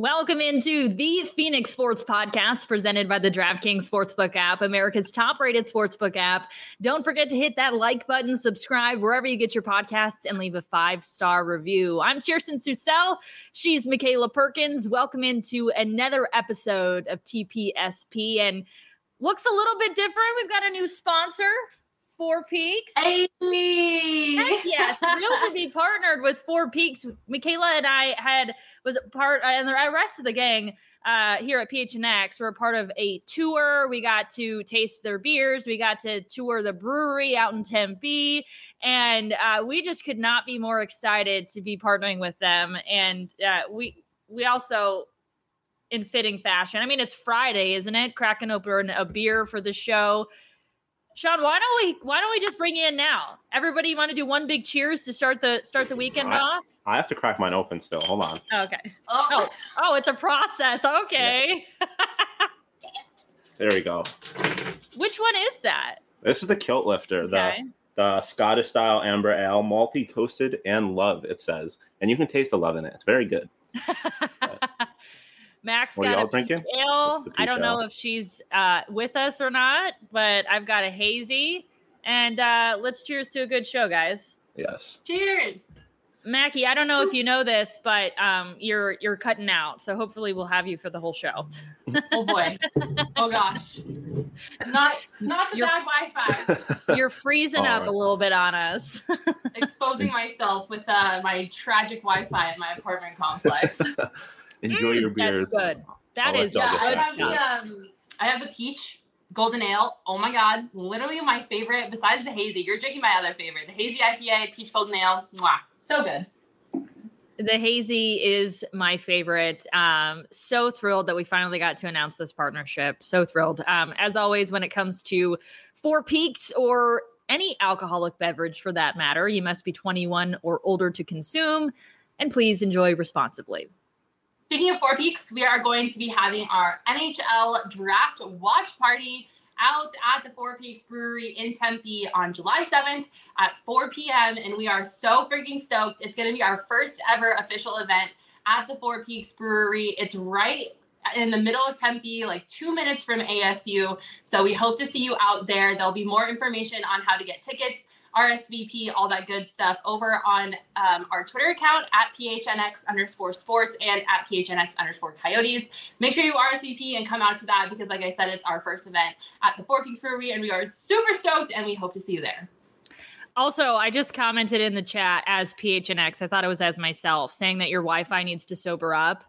Welcome into the Phoenix Sports Podcast presented by the DraftKings Sportsbook app, America's top-rated sportsbook app. Don't forget to hit that like button, subscribe wherever you get your podcasts, and leave a 5-star review. I'm Kirsten Susel. She's Michaela Perkins. Welcome into another episode of TPSP. And looks a little bit different. We've got a new sponsor, Four Peaks. Hey! Heck yeah, thrilled to be partnered with Four Peaks. Michaela and I was a part, and the rest of the gang here at PHNX were a part of a tour. We got to taste their beers. We got to tour the brewery out in Tempe, and we just could not be more excited to be partnering with them. And we also, in fitting fashion, I mean, it's Friday, isn't it? Cracking open a beer for the show. Sean, why don't we just bring you in now? Everybody want to do one big cheers to start the weekend off? I have to crack mine open still. Hold on. Okay. Oh, it's a process. Okay. Yeah. There we go. Which one is that? This is the Kilt Lifter, Okay. the Scottish style amber ale, malty, toasted, and love, it says. And you can taste the love in it. It's very good. Max What are got y'all a peach drinking? ale. The peach I don't know ale. if she's with us or not, but I've got a hazy. And let's cheers to a good show, guys. Yes. Cheers! Mackie, I don't know if you know this, but you're cutting out, so hopefully we'll have you for the whole show. Oh boy. Oh gosh. Not the bad Wi-Fi. You're freezing up All right. a little bit on us. Exposing myself with my tragic Wi-Fi at my apartment complex. Enjoy your beers. That's good. That I'll is let Yeah, y'all good get I have stuff. I have the peach golden ale. Oh my god, literally my favorite besides the hazy. You're drinking my other favorite, the hazy IPA, peach golden ale. Mwah. So good. The hazy is my favorite. So thrilled that we finally got to announce this partnership. So thrilled. As always, when it comes to Four Peaks or any alcoholic beverage for that matter, you must be 21 or older to consume, and please enjoy responsibly. Speaking of Four Peaks, we are going to be having our NHL draft watch party out at the Four Peaks Brewery in Tempe on July 7th at 4 p.m. And we are so freaking stoked. It's going to be our first ever official event at the Four Peaks Brewery. It's right in the middle of Tempe, like 2 minutes from ASU. So we hope to see you out there. There'll be more information on how to get tickets, RSVP, all that good stuff over on our Twitter account at PHNX_sports and at PHNX_coyotes. Make sure you RSVP and come out to that because, like I said, it's our first event at the Four Peaks Brewery and we are super stoked and we hope to see you there. Also, I just commented in the chat as PHNX. I thought it was as myself, saying that your Wi-Fi needs to sober up.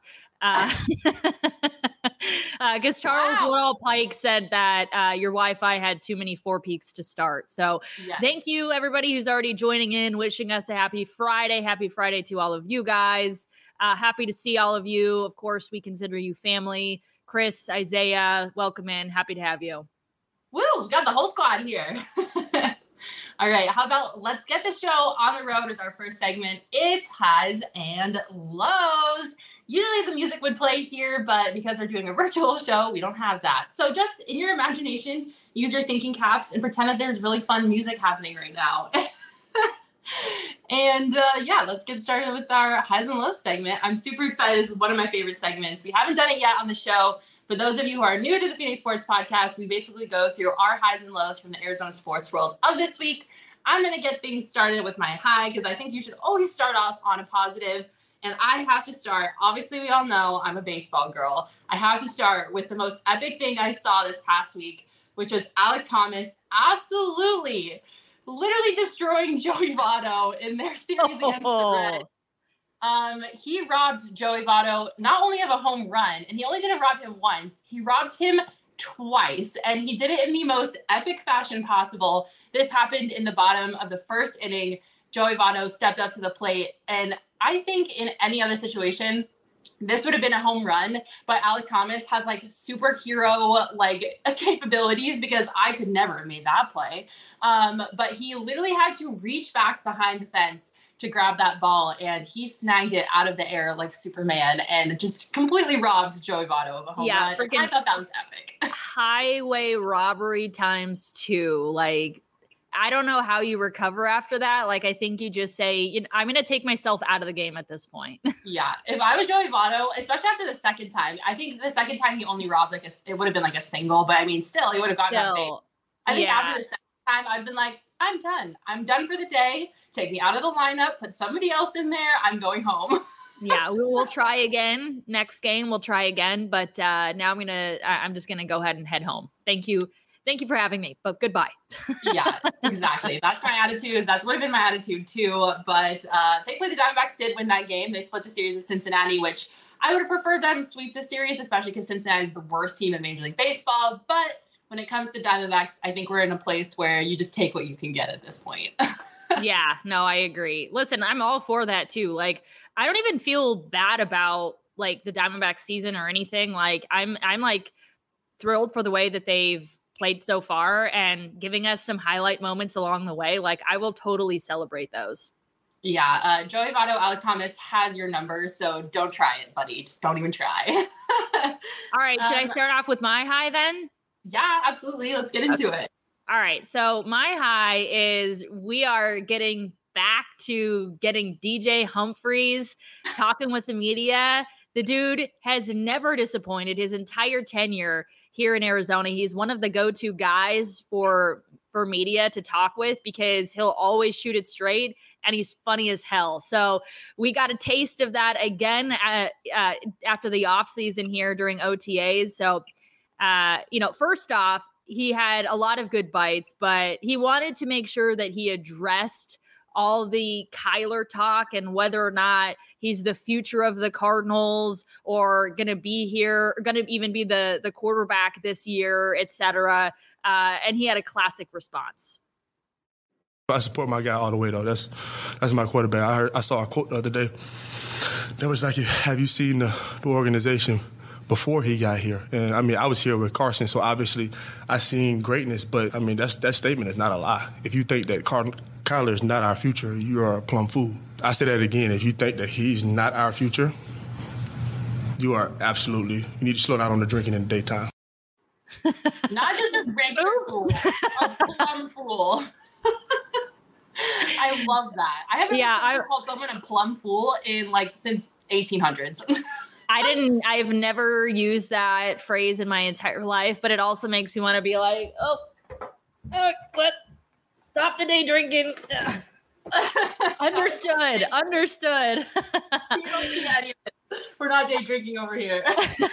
Because Charles Woodall Pike said that your Wi-Fi had too many Four Peaks to start. So Yes. Thank you, everybody who's already joining in, wishing us a happy Friday. Happy Friday to all of you guys. Happy to see all of you. Of course, we consider you family. Chris, Isaiah, welcome in. Happy to have you. Woo, we got the whole squad here. All right, how about let's get the show on the road with our first segment. It's highs and lows. Usually the music would play here, but because we're doing a virtual show, we don't have that. So just in your imagination, use your thinking caps and pretend that there's really fun music happening right now. And yeah, let's get started with our highs and lows segment. I'm super excited. This is one of my favorite segments. We haven't done it yet on the show. For those of you who are new to the Phoenix Sports Podcast, we basically go through our highs and lows from the Arizona sports world of this week. I'm going to get things started with my high because I think you should always start off on a positive. And I have to start, obviously we all know I'm a baseball girl. I have to start with the most epic thing I saw this past week, which was Alek Thomas absolutely, literally destroying Joey Votto in their series against the Reds. He robbed Joey Votto not only of a home run, and he only didn't rob him once, he robbed him twice, and he did it in the most epic fashion possible. This happened in the bottom of the first inning. Joey Votto stepped up to the plate, and I think in any other situation, this would have been a home run, but Alek Thomas has like superhero like capabilities because I could never have made that play. But he literally had to reach back behind the fence to grab that ball, and he snagged it out of the air like Superman and just completely robbed Joey Votto of a home run. I thought that was epic. Highway robbery times 2. Like, I don't know how you recover after that. Like, I think you just say, I'm going to take myself out of the game at this point. Yeah. If I was Joey Votto, especially after the second time, I think the second time he only robbed it would have been like a single, but I mean, still, he would have gotten out of base. I think after the second time, I've been like, I'm done. I'm done for the day. Take me out of the lineup. Put somebody else in there. I'm going home. Yeah, we'll try again. Next game, we'll try again. But now I'm just going to go ahead and head home. Thank you. Thank you for having me, but goodbye. Yeah, exactly. That's my attitude. That's would have been my attitude too. But thankfully the Diamondbacks did win that game. They split the series with Cincinnati, which I would have preferred them sweep the series, especially because Cincinnati is the worst team in Major League Baseball. But when it comes to Diamondbacks, I think we're in a place where you just take what you can get at this point. Yeah, no, I agree. Listen, I'm all for that too. Like, I don't even feel bad about like the Diamondbacks season or anything. Like, I'm like thrilled for the way that they've played so far and giving us some highlight moments along the way. Like, I will totally celebrate those. Yeah. Joey Votto, Alek Thomas has your number, so don't try it, buddy. Just don't even try. All right. Should I start off with my high then? Yeah, absolutely. Let's get into it. All right. So my high is we are getting back to getting DJ Humphries talking with the media. The dude has never disappointed his entire tenure here in Arizona. He's one of the go-to guys for media to talk with because he'll always shoot it straight and he's funny as hell. So we got a taste of that again after the offseason here during OTAs. So, first off, he had a lot of good bites, but he wanted to make sure that he addressed all the Kyler talk and whether or not he's the future of the Cardinals or going to be here, going to even be the quarterback this year, et cetera. And he had a classic response. I support my guy all the way, though. That's my quarterback. I saw a quote the other day that was like, have you seen the organization before he got here? And, I mean, I was here with Carson, so obviously I seen greatness. But, I mean, that statement is not a lie. If you think that Kyler is not our future, you are a plumb fool. I say that again. If you think that he's not our future, you are absolutely – you need to slow down on the drinking in the daytime. Not just a regular fool, a plum fool. I love that. I haven't called someone a plum fool since 1800s. I've never used that phrase in my entire life, but it also makes me want to be like, what? Stop the day drinking. Understood. You don't see that either. We're not day drinking over here.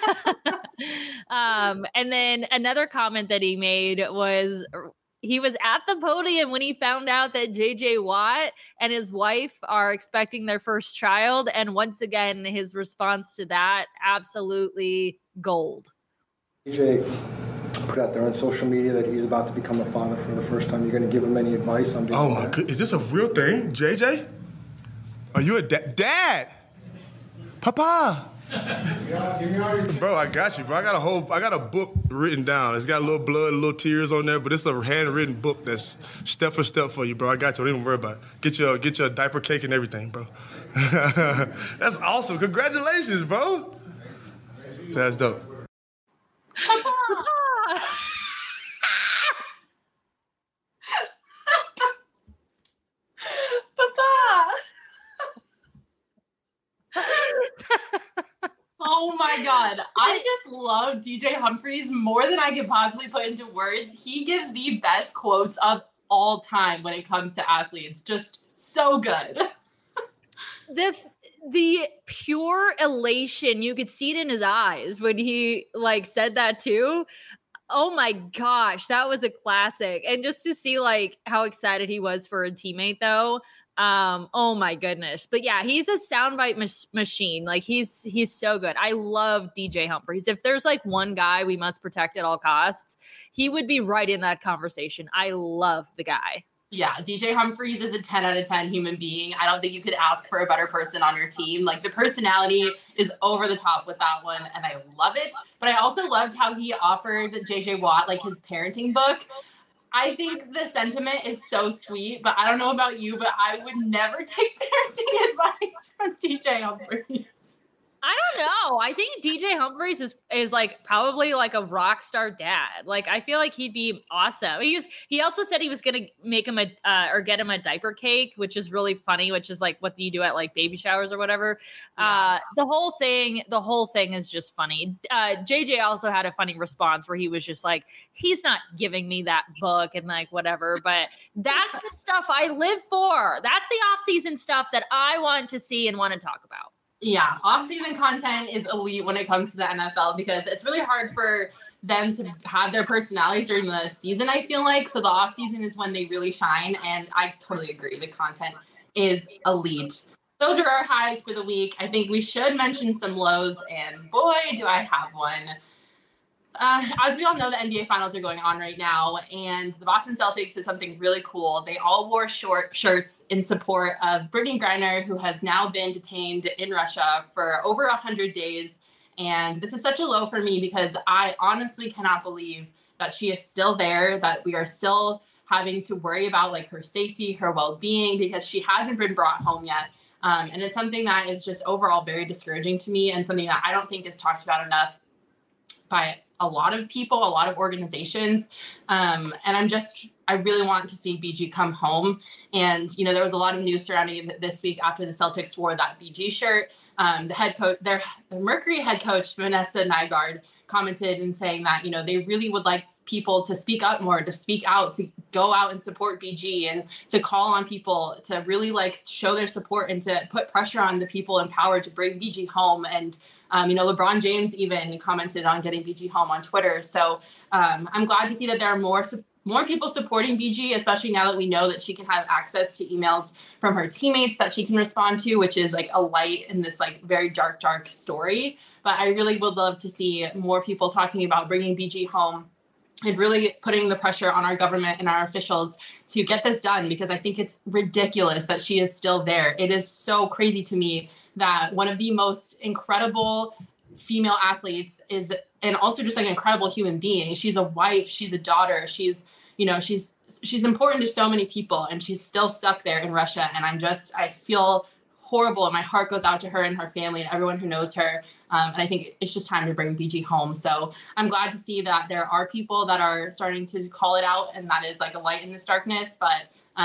And then another comment that he made was he was at the podium when he found out that JJ Watt and his wife are expecting their first child. And once again, his response to that, absolutely gold. JJ put out there on social media that he's about to become a father for the first time. You're going to give him any advice on being Oh, my God. Is this a real thing? JJ? Are you a dad? Papa? Bro, I got you, bro. I got a book written down. It's got a little blood, a little tears on there, but it's a handwritten book that's step for step for you, bro. I got you. Don't even worry about it. Get your diaper cake and everything, bro. That's awesome. Congratulations, bro. That's dope. Oh my God. I just love DJ Humphries more than I could possibly put into words. He gives the best quotes of all time when it comes to athletes. Just so good. The pure elation, you could see it in his eyes when he said that too. Oh my gosh, that was a classic. And just to see how excited he was for a teammate though. Oh my goodness. But yeah, he's a soundbite machine. He's so good. I love DJ Humphries. If there's one guy we must protect at all costs, he would be right in that conversation. I love the guy. Yeah, DJ Humphries is a 10 out of 10 human being. I don't think you could ask for a better person on your team. The personality is over the top with that one, and I love it. But I also loved how he offered JJ Watt, his parenting book. I think the sentiment is so sweet, but I don't know about you, but I would never take parenting advice from DJ Humphries. I don't know. I think DJ Humphries is like probably like a rock star dad. Like I feel like he'd be awesome. He also said he was gonna make him or get him a diaper cake, which is really funny. Which is like what you do at like baby showers or whatever. Yeah. The whole thing is just funny. JJ also had a funny response where he was just like, he's not giving me that book and like whatever. But that's the stuff I live for. That's the off-season stuff that I want to see and want to talk about. Yeah, off-season content is elite when it comes to the NFL because it's really hard for them to have their personalities during the season, I feel like. So the off-season is when they really shine, and I totally agree. The content is elite. Those are our highs for the week. I think we should mention some lows, and boy, do I have one. As we all know, the NBA Finals are going on right now, and the Boston Celtics did something really cool. They all wore short shirts in support of Brittney Griner, who has now been detained in Russia for over 100 days. And this is such a low for me because I honestly cannot believe that she is still there, that we are still having to worry about like her safety, her well-being, because she hasn't been brought home yet. And it's something that is just overall very discouraging to me and something that I don't think is talked about enough by a lot of people, a lot of organizations. And I really want to see BG come home. And, you know, there was a lot of news surrounding it this week after the Celtics wore that BG shirt. The head coach, the Mercury head coach, Vanessa Nygaard, commented and saying that, you know, they really would like people to speak up more, to speak out, to go out and support BG and to call on people to really like show their support and to put pressure on the people in power to bring BG home. And, you know, LeBron James even commented on getting BG home on Twitter. So I'm glad to see that there are more people supporting BG, especially now that we know that she can have access to emails from her teammates that she can respond to, which is like a light in this like very dark story. But I really would love to see more people talking about bringing BG home and really putting the pressure on our government and our officials to get this done, because I think it's ridiculous that she is still there. It is so crazy to me that one of the most incredible female athletes is, and also just like an incredible human being. She's a wife, she's a daughter, she's important to so many people, and she's still stuck there in Russia. And I feel horrible, and my heart goes out to her and her family and everyone who knows her. And I think it's just time to bring BG home. So I'm glad to see that there are people that are starting to call it out, and that is like a light in this darkness. But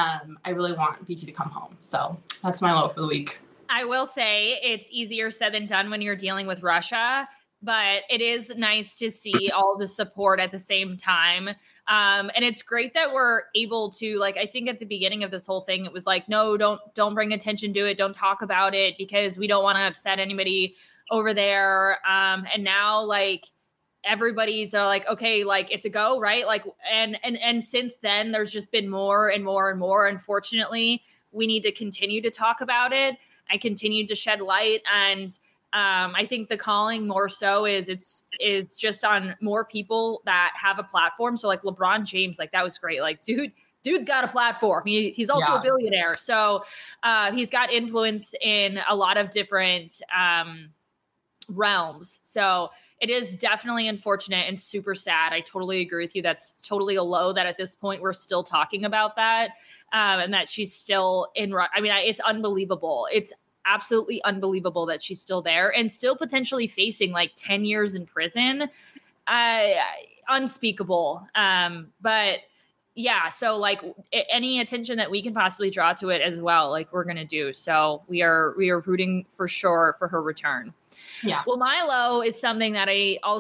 I really want BG to come home. So that's my low for the week. I will say it's easier said than done when you're dealing with Russia, but it is nice to see all the support at the same time. And it's great that we're able to, like, I think at the beginning of this whole thing, it was like, no, don't bring attention to it. Don't talk about it because we don't want to upset anybody over there. And now like everybody's like, okay, like it's a go, right? Like, and since then there's just been more and more and more. Unfortunately, we need to continue to talk about it. I continue to shed light, and I think the calling more so is just on more people that have a platform. So like LeBron James, like that was great. Like dude's got a platform. He's also a billionaire. So he's got influence in a lot of different realms. So it is definitely unfortunate and super sad. I totally agree with you. That's totally a low that at this point we're still talking about that. And that she's still it's unbelievable. It's absolutely unbelievable that she's still there and still potentially facing like 10 years in prison. Unspeakable. But yeah, so like any attention that we can possibly draw to it as well, like we're going to do. So we are rooting for sure for her return. Yeah. Well, Milo is something that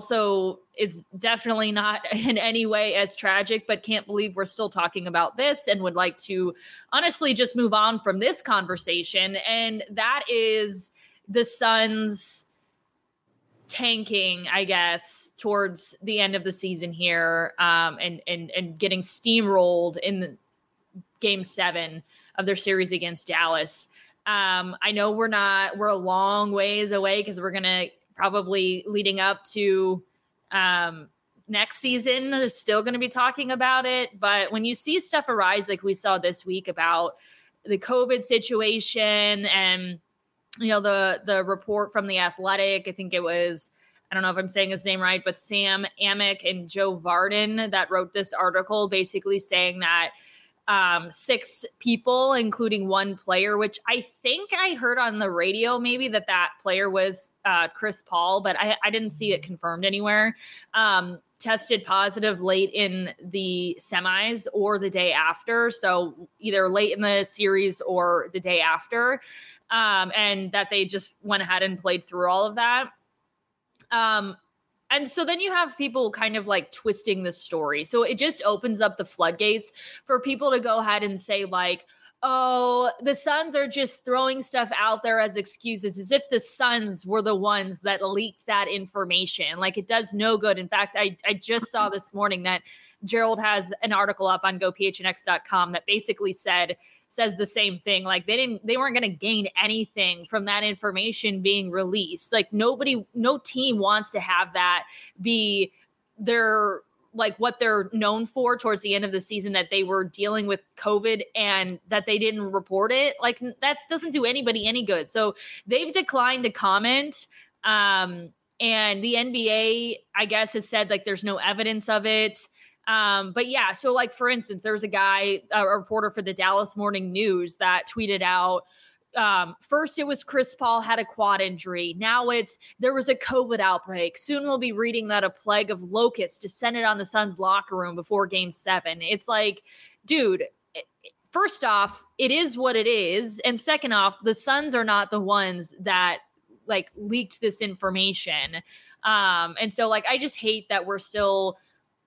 is definitely not in any way as tragic, but can't believe we're still talking about this and would like to honestly just move on from this conversation. And that is the Suns tanking, I guess, towards the end of the season here, and getting steamrolled in the Game 7 of their series against Dallas. I know we're a long ways away because we're going to probably leading up to next season, still going to be talking about it. But when you see stuff arise, like we saw this week about the COVID situation and, you know, the report from The Athletic, I think it was, I don't know if I'm saying his name right, but Sam Amick and Joe Vardon that wrote this article basically saying that 6 people, including one player, which I think I heard on the radio maybe that player was Chris Paul, but I didn't see it confirmed anywhere. Tested positive late in the semis or the day after. So either late in the series or the day after. And that they just went ahead and played through all of that. And so then you have people kind of like twisting the story. So it just opens up the floodgates for people to go ahead and say like, oh, the Suns are just throwing stuff out there as excuses, as if the Suns were the ones that leaked that information. Like, it does no good. In fact, I just saw this morning that Gerald has an article up on gophnx.com that basically says the same thing. Like, they weren't going to gain anything from that information being released. Like, no team wants to have that be their, like, what they're known for towards the end of the season, that they were dealing with COVID and that they didn't report it. Like, that doesn't do anybody any good. So they've declined to comment. And the NBA, I guess, has said like there's no evidence of it. But yeah, so like, for instance, there was a reporter for the Dallas Morning News that tweeted out, first it was Chris Paul had a quad injury. Now there was a COVID outbreak. Soon we'll be reading that a plague of locusts descended on the Suns locker room before Game 7. It's like, dude, first off, it is what it is. And second off, the Suns are not the ones that like leaked this information. And so like, I just hate that we're still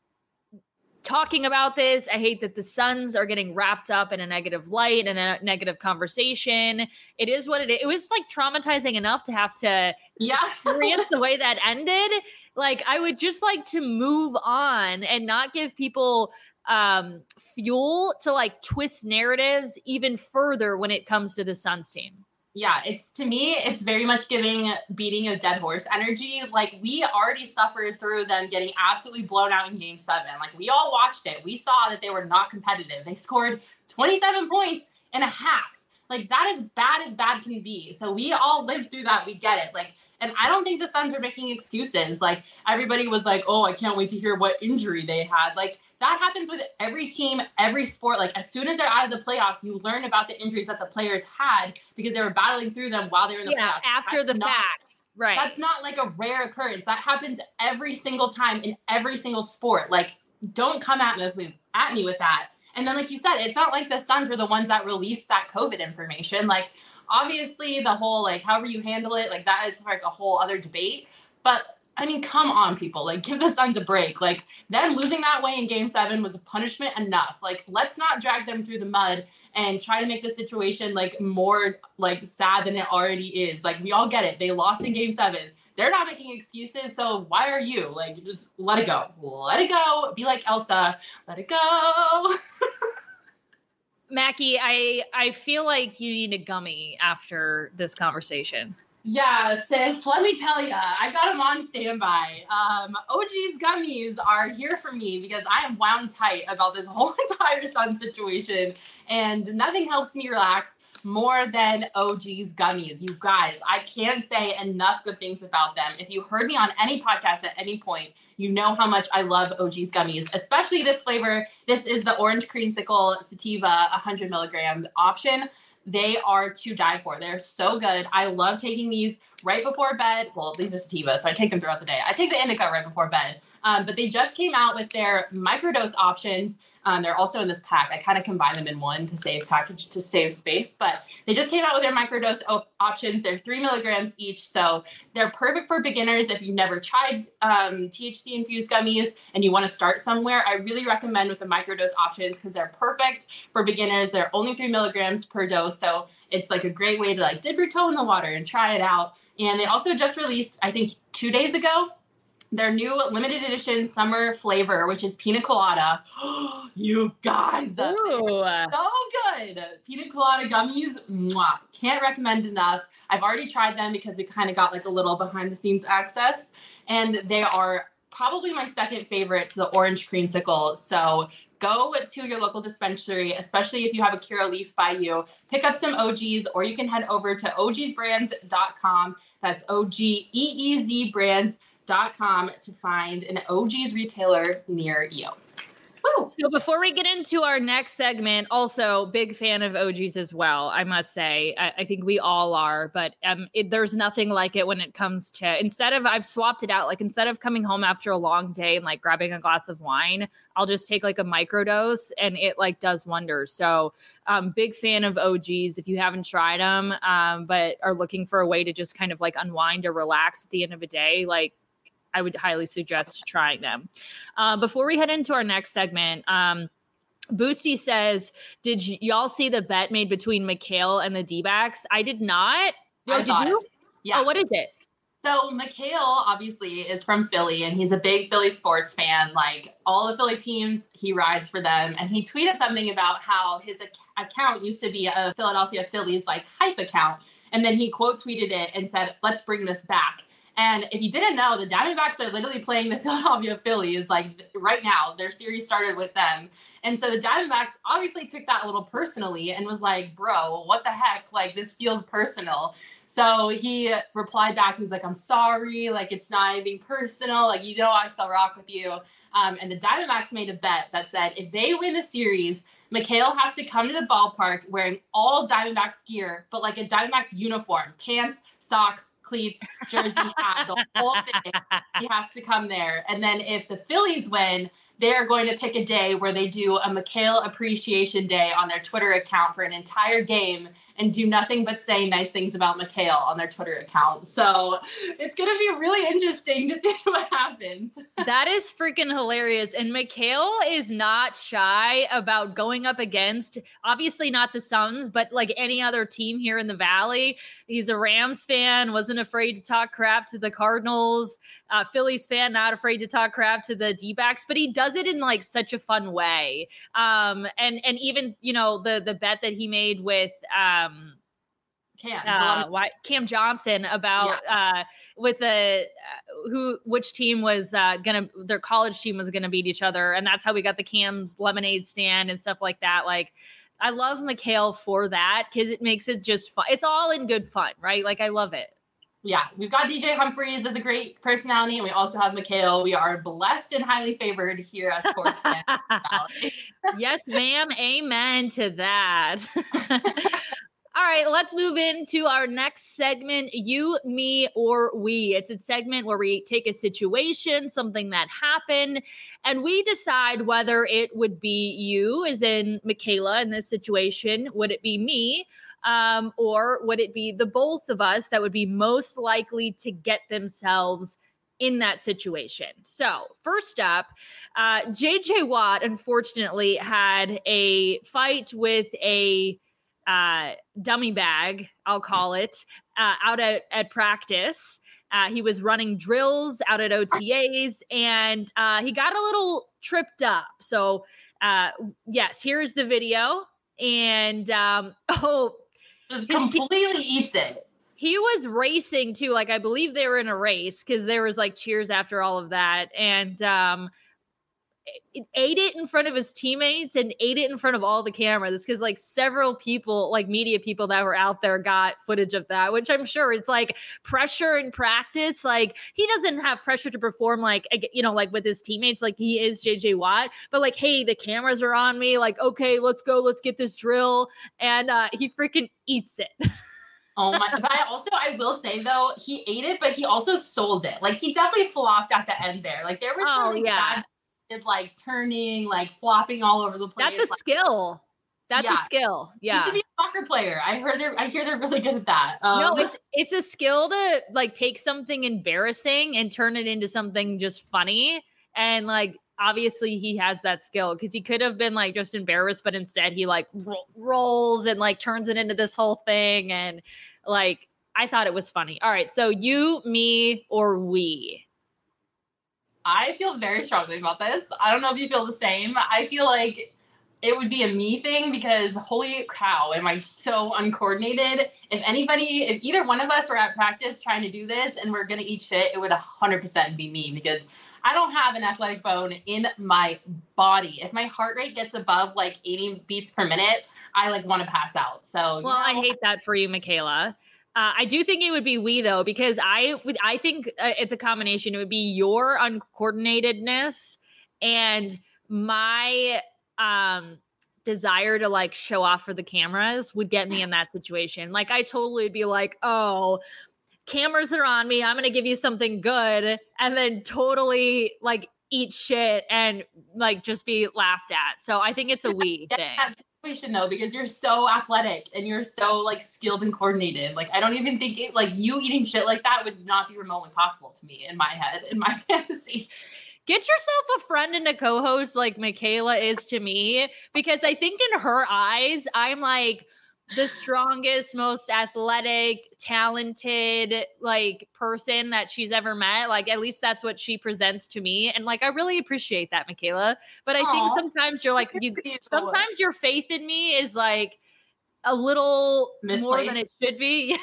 talking about this. I hate that the Suns are getting wrapped up in a negative light and a negative conversation. It is what it is. It was like traumatizing enough to have to experience the way that ended. Like, I would just like to move on and not give people fuel to like twist narratives even further when it comes to the Suns team. Yeah, to me, it's very much beating a dead horse energy. Like, we already suffered through them getting absolutely blown out in Game 7. Like, we all watched it. We saw that they were not competitive. They scored 27 points in a half. Like, that is bad as bad can be. So we all lived through that. We get it. Like, and I don't think the Suns were making excuses. Like, everybody was like, oh, I can't wait to hear what injury they had. Like, that happens with every team, every sport. Like, as soon as they're out of the playoffs, you learn about the injuries that the players had because they were battling through them while they were in the playoffs. After the fact. Right. That's not like a rare occurrence. That happens every single time in every single sport. Like, don't come at me with that. And then, like you said, it's not like the Suns were the ones that released that COVID information. Like, obviously, the whole, like, however you handle it, like, that is like a whole other debate. But I mean, come on, people. Like, give the Suns a break. Like, them losing that way in Game 7 was a punishment enough. Like, let's not drag them through the mud and try to make the situation, like, more, like, sad than it already is. Like, we all get it. They lost in Game 7. They're not making excuses, so why are you? Like, just let it go. Let it go. Be like Elsa. Let it go. Mackie, I feel like you need a gummy after this conversation. Yeah, sis, let me tell you, I got them on standby. OG's gummies are here for me because I am wound tight about this whole entire Sun situation, and nothing helps me relax more than OG's gummies. You guys, I can't say enough good things about them. If you heard me on any podcast at any point, you know how much I love OG's gummies, especially this flavor. This is the Orange Creamsicle Sativa 100 milligram option. They are to die for. They're so good. I love taking these right before bed. Well, these are sativa, so I take them throughout the day. I take the indica right before bed. But they just came out with their microdose options. They're also in this pack. I kind of combine them in one to save space. But they just came out with their microdose options. They're 3 milligrams each. So they're perfect for beginners. If you've never tried THC-infused gummies and you want to start somewhere, I really recommend with the microdose options because they're perfect for beginners. They're only 3 milligrams per dose. So it's like a great way to like dip your toe in the water and try it out. And they also just released, I think 2 days ago, their new limited edition summer flavor, which is pina colada. You guys, so good. Pina colada gummies, mwah. Can't recommend enough. I've already tried them because we kind of got like a little behind the scenes access, and they are probably my second favorite to the Orange Creamsicle. So go to your local dispensary, especially if you have a Curaleaf by you. Pick up some OGs, or you can head over to ogsbrands.com. That's OGEEZ brands.com to find an OG's retailer near you. Woo! So before we get into our next segment, also big fan of OGs as well, I must say. I think we all are, but there's nothing like it when it comes to, I've swapped it out. Like instead of coming home after a long day and like grabbing a glass of wine, I'll just take like a microdose and it like does wonders. So big fan of OGs if you haven't tried them, but are looking for a way to just kind of like unwind or relax at the end of a day. Like I would highly suggest trying them. Before we head into our next segment, Boosty says, did y'all see the bet made between Mikal and the D-backs? I did not. I did you? Yeah. Oh, what is it? So Mikal obviously is from Philly and he's a big Philly sports fan. Like all the Philly teams, he rides for them. And he tweeted something about how his account used to be a Philadelphia Phillies like hype account. And then he quote tweeted it and said, let's bring this back. And if you didn't know, the Diamondbacks are literally playing the Philadelphia Phillies like right now. Their series started with them. And so the Diamondbacks obviously took that a little personally and was like, bro, what the heck? Like, this feels personal. So he replied back. He was like, I'm sorry. Like, it's not anything personal. Like, you know, I still rock with you. And the Diamondbacks made a bet that said if they win the series, Mikal has to come to the ballpark wearing all Diamondbacks gear, but like a Diamondbacks uniform, pants, socks, cleats, jersey, hat, the whole thing. He has to come there. And then if the Phillies win, they're going to pick a day where they do a Mikal Appreciation Day on their Twitter account for an entire game and do nothing but say nice things about Mikal on their Twitter account. So it's going to be really interesting to see what happens. That is freaking hilarious. And Mikal is not shy about going up against, obviously not the Suns, but like any other team here in the Valley. He's a Rams fan, wasn't afraid to talk crap to the Cardinals. Phillies fan, not afraid to talk crap to the D-backs, but he does it in like such a fun way. And even, you know, the bet that he made with Cam Johnson about with which team was their college team was gonna beat each other, and that's how we got the Cam's lemonade stand and stuff like that. Like, I love Mikal for that because it makes it just fun. It's all in good fun, right? Like, I love it. Yeah, we've got DJ Humphries as a great personality, and we also have Mikal. We are blessed and highly favored here as sports fans. Yes, ma'am. Amen to that. All right, let's move into our next segment, You, Me, or We. It's a segment where we take a situation, something that happened, and we decide whether it would be you, as in Michaela in this situation, would it be me, or would it be the both of us that would be most likely to get themselves in that situation. So first up, JJ Watt unfortunately had a fight with a dummy bag, I'll call it, out at practice. He was running drills out at OTAs, and he got a little tripped up. So yes, here's the video. And just completely eats it. He was racing too. Like, I believe they were in a race because there was like cheers after all of that. And ate it in front of his teammates and ate it in front of all the cameras because like several people, like media people that were out there got footage of that, which I'm sure it's like pressure in practice. Like, he doesn't have pressure to perform like, you know, like with his teammates, like he is JJ Watt, but like, hey, the cameras are on me. Like, okay, let's go. Let's get this drill. And he freaking eats it. Oh my, but I will say though, he ate it, but he also sold it. Like, he definitely flopped at the end there. Like, there was something bad. It's like turning, like flopping all over the place. That's a skill. That's a skill. Yeah. You should be a soccer player. I hear they're really good at that. No, it's a skill to like take something embarrassing and turn it into something just funny. And like, obviously he has that skill because he could have been like just embarrassed, but instead he like rolls and like turns it into this whole thing. And like, I thought it was funny. All right. So you, me, or we? I feel very strongly about this. I don't know if you feel the same. I feel like it would be a me thing because holy cow, am I so uncoordinated. If either one of us were at practice trying to do this and we're going to eat shit, it would 100% be me because I don't have an athletic bone in my body. If my heart rate gets above like 80 beats per minute, I like want to pass out. So, well, I hate that for you, Michaela. I do think it would be we though, because I think it's a combination. It would be your uncoordinatedness and my desire to like show off for the cameras would get me in that situation. Like I totally would be like, oh, cameras are on me, I'm going to give you something good, and then totally like eat shit and like just be laughed at. So I think it's a we thing. That situation though, because you're so athletic and you're so like skilled and coordinated. Like I don't even think it, like you eating shit like that would not be remotely possible to me in my head, in my fantasy. Get yourself a friend and a co-host like Michaela is to me, because I think in her eyes, I'm like the strongest, most athletic, talented like person that she's ever met. Like at least that's what she presents to me. And like I really appreciate that, Michaela. But I think sometimes you're like sometimes your faith in me is like a little misplaced. More than it should be.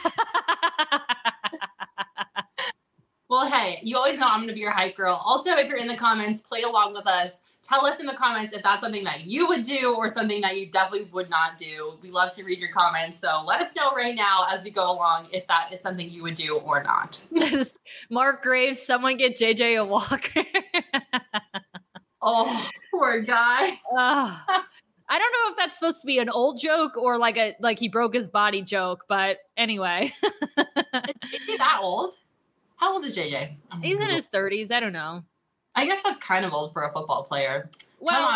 Well, hey, you always know I'm going to be your hype girl. Also, if you're in the comments, play along with us. Tell us in the comments if that's something that you would do or something that you definitely would not do. We love to read your comments. So let us know right now as we go along if that is something you would do or not. Mark Graves, someone get JJ a walker. Oh, poor guy. I don't know if that's supposed to be an old joke or like he broke his body joke, but anyway. Is he that old? How old is JJ? He's in his 30s. I don't know. I guess that's kind of old for a football player. Well,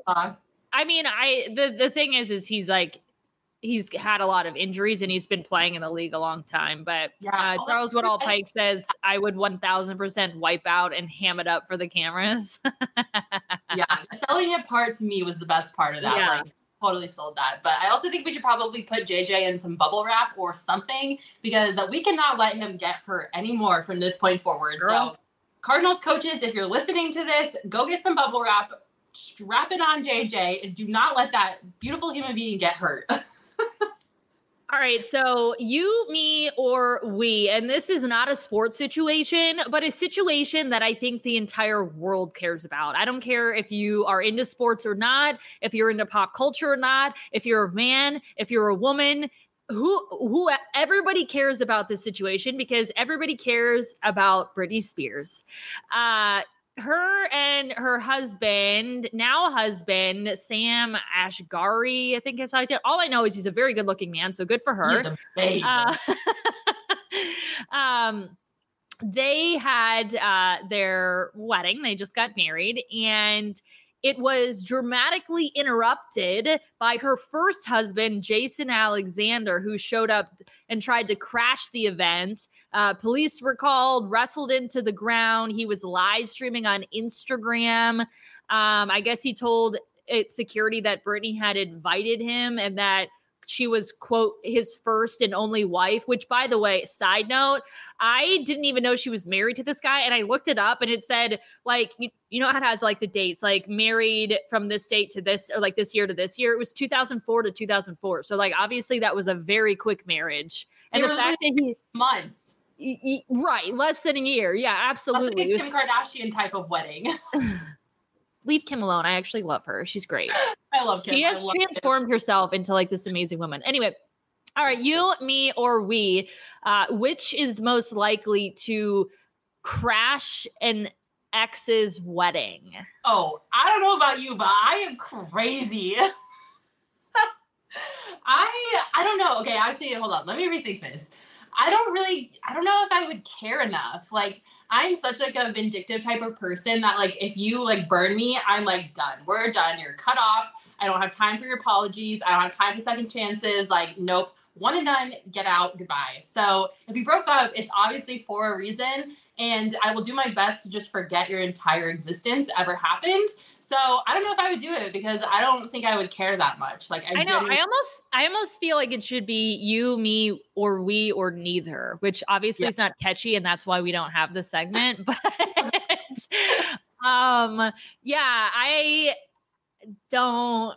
the thing is he's like, he's had a lot of injuries and he's been playing in the league a long time. But Charles Woodall Pike says I would 1000% wipe out and ham it up for the cameras. Yeah, selling it part to me was the best part of that. Yeah. Like, totally sold that. But I also think we should probably put JJ in some bubble wrap or something, because we cannot let him get hurt anymore from this point forward. Girl. So Cardinals coaches, if you're listening to this, go get some bubble wrap, strap it on JJ, and do not let that beautiful human being get hurt. All right, so you, me, or we, and this is not a sports situation, but a situation that I think the entire world cares about. I don't care if you are into sports or not, if you're into pop culture or not, if you're a man, if you're a woman, who everybody cares about this situation, because everybody cares about Britney Spears. Her and her husband, Sam Asghari, I think is how I tell. All I know is he's a very good looking man, so good for her. He's a baby. They had their wedding. They just got married, and it was dramatically interrupted by her first husband, Jason Alexander, who showed up and tried to crash the event. Police were called, wrestled into the ground. He was live streaming on Instagram. I guess he told security that Britney had invited him and that she was, quote, his first and only wife, which, by the way, side note, I didn't even know she was married to this guy. And I looked it up and it said, like, you know how it has like the dates, like married from this date to this, or like this year to this year. It was 2004 to 2004. So like, obviously that was a very quick marriage. And the fact that he months. Right. Less than a year. Yeah, absolutely. That's like a Kim Kardashian type of wedding. Leave Kim alone. I actually love her. She's great. I love Kim. She has transformed herself into like this amazing woman. Anyway, all right, you, me, or we, which is most likely to crash an ex's wedding? Oh, I don't know about you, but I am crazy. I don't know. Okay, actually, hold on. Let me rethink this. I don't know if I would care enough. Like, I'm such like a vindictive type of person that like, if you like burn me, I'm like done. We're done. You're cut off. I don't have time for your apologies. I don't have time for second chances. Like, nope. One and done. Get out. Goodbye. So if you broke up, it's obviously for a reason. And I will do my best to just forget your entire existence ever happened. So I don't know if I would do it because I don't think I would care that much. Like I know. I almost feel like it should be you, me, or we, or neither, which obviously is not catchy, and that's why we don't have the segment. But yeah, I don't.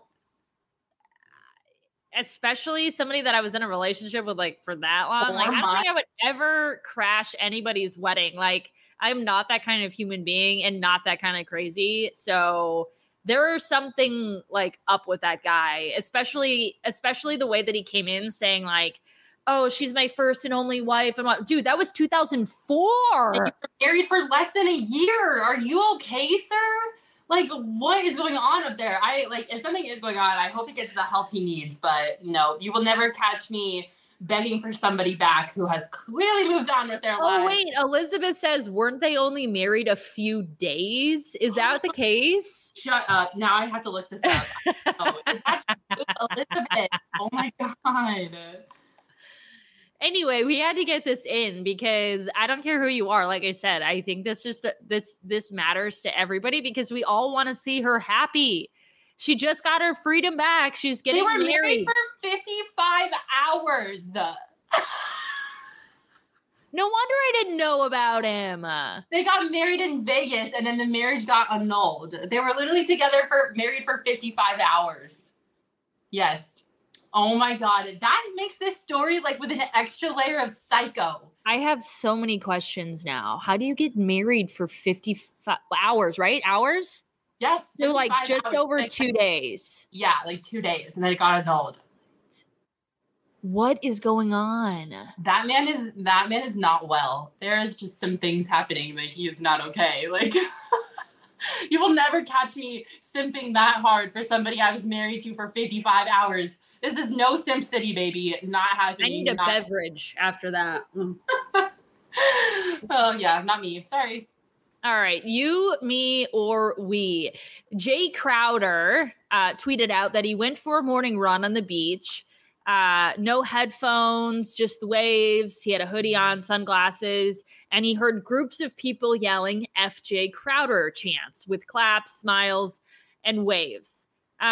Especially somebody that I was in a relationship with like for that long. Like I don't think I would ever crash anybody's wedding. Like I'm not that kind of human being and not that kind of crazy. So there is something like up with that guy, especially the way that he came in saying like, oh, she's my first and only wife. And dude, that was 2004. And you were married for less than a year. Are you okay, sir? Like, what is going on up there? If something is going on, I hope he gets the help he needs. But no, you will never catch me begging for somebody back who has clearly moved on with their life. Oh, wait. Elizabeth says, weren't they only married a few days? Is that the case? Shut up. Now I have to look this up. Oh, is that true? Elizabeth? Oh, my God. Anyway, we had to get this in because I don't care who you are. Like I said, I think this matters to everybody because we all want to see her happy. She just got her freedom back. She's getting married. They were married for 55 hours. No wonder I didn't know about him. They got married in Vegas and then the marriage got annulled. They were literally married for 55 hours. Yes. Oh my God. That makes this story like with an extra layer of psycho. I have so many questions now. How do you get married for 55 hours, right? Hours? Yes. So like just hours. over 2 days. Yeah, like 2 days. And then it got annulled. What is going on? That man is not well. There is just some things happening that he is not okay. Like you will never catch me simping that hard for somebody I was married to for 55 hours. This is no Simp City, baby. Not happening. I need a beverage after that. Oh, yeah, not me. Sorry. All right. You, me, or we. Jay Crowder tweeted out that he went for a morning run on the beach. No headphones, just the waves. He had a hoodie on, sunglasses, and he heard groups of people yelling FJ Crowder chants with claps, smiles, and waves.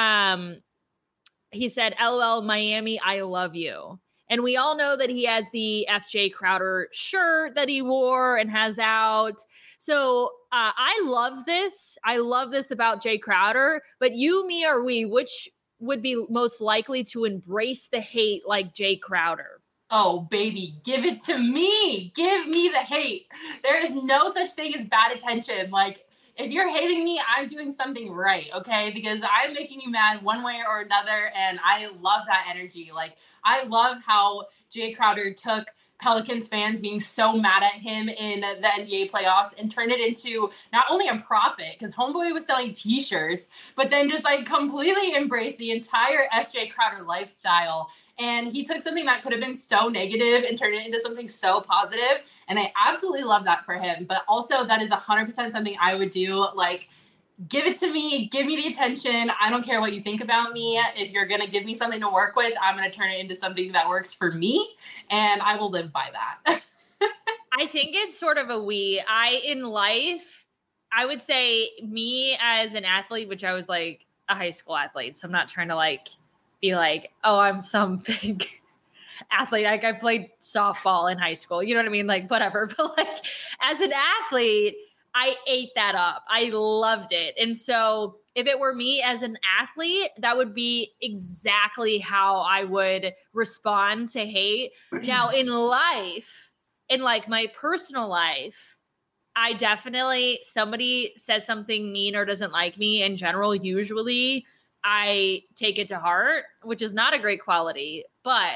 He said, LOL, Miami, I love you. And we all know that he has the FJ Crowder shirt that he wore and has out. So I love this. I love this about Jay Crowder. But you, me, or we, which would be most likely to embrace the hate like Jay Crowder? Oh, baby, give it to me. Give me the hate. There is no such thing as bad attention. Like, if you're hating me, I'm doing something right, okay? Because I'm making you mad one way or another, and I love that energy. Like, I love how Jay Crowder took Pelicans fans being so mad at him in the NBA playoffs and turned it into not only a profit, because Homeboy was selling t-shirts, but then just like completely embraced the entire FJ Crowder lifestyle. And he took something that could have been so negative and turned it into something so positive. And I absolutely love that for him. But also that is 100% something I would do. Like, give it to me. Give me the attention. I don't care what you think about me. If you're going to give me something to work with, I'm going to turn it into something that works for me. And I will live by that. I think it's sort of a we. In life, I would say me as an athlete, which I was like a high school athlete. So I'm not trying to like be like, oh, I'm some big athlete. Like I played softball in high school. You know what I mean? Like whatever. But like as an athlete, I ate that up. I loved it. And so if it were me as an athlete, that would be exactly how I would respond to hate. Now in life, in like my personal life, I definitely, somebody says something mean or doesn't like me in general, usually I take it to heart, which is not a great quality, but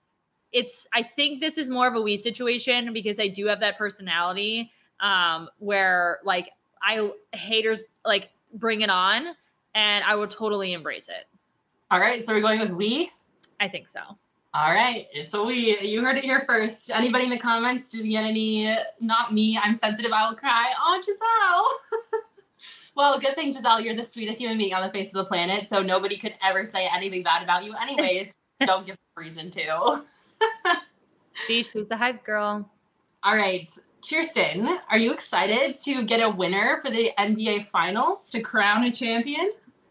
I think this is more of a we situation because I do have that personality where like haters like bring it on and I would totally embrace it. All right. So we're going with we? I think so. All right. It's a we. You heard it here first. Anybody in the comments, did we get any, not me, I'm sensitive, I will cry. Oh, Giselle. Well, good thing, Giselle, you're the sweetest human being on the face of the planet. So nobody could ever say anything bad about you anyways. Don't give a reason to. See, she's the hype girl. All right. Kirsten, are you excited to get a winner for the NBA Finals to crown a champion?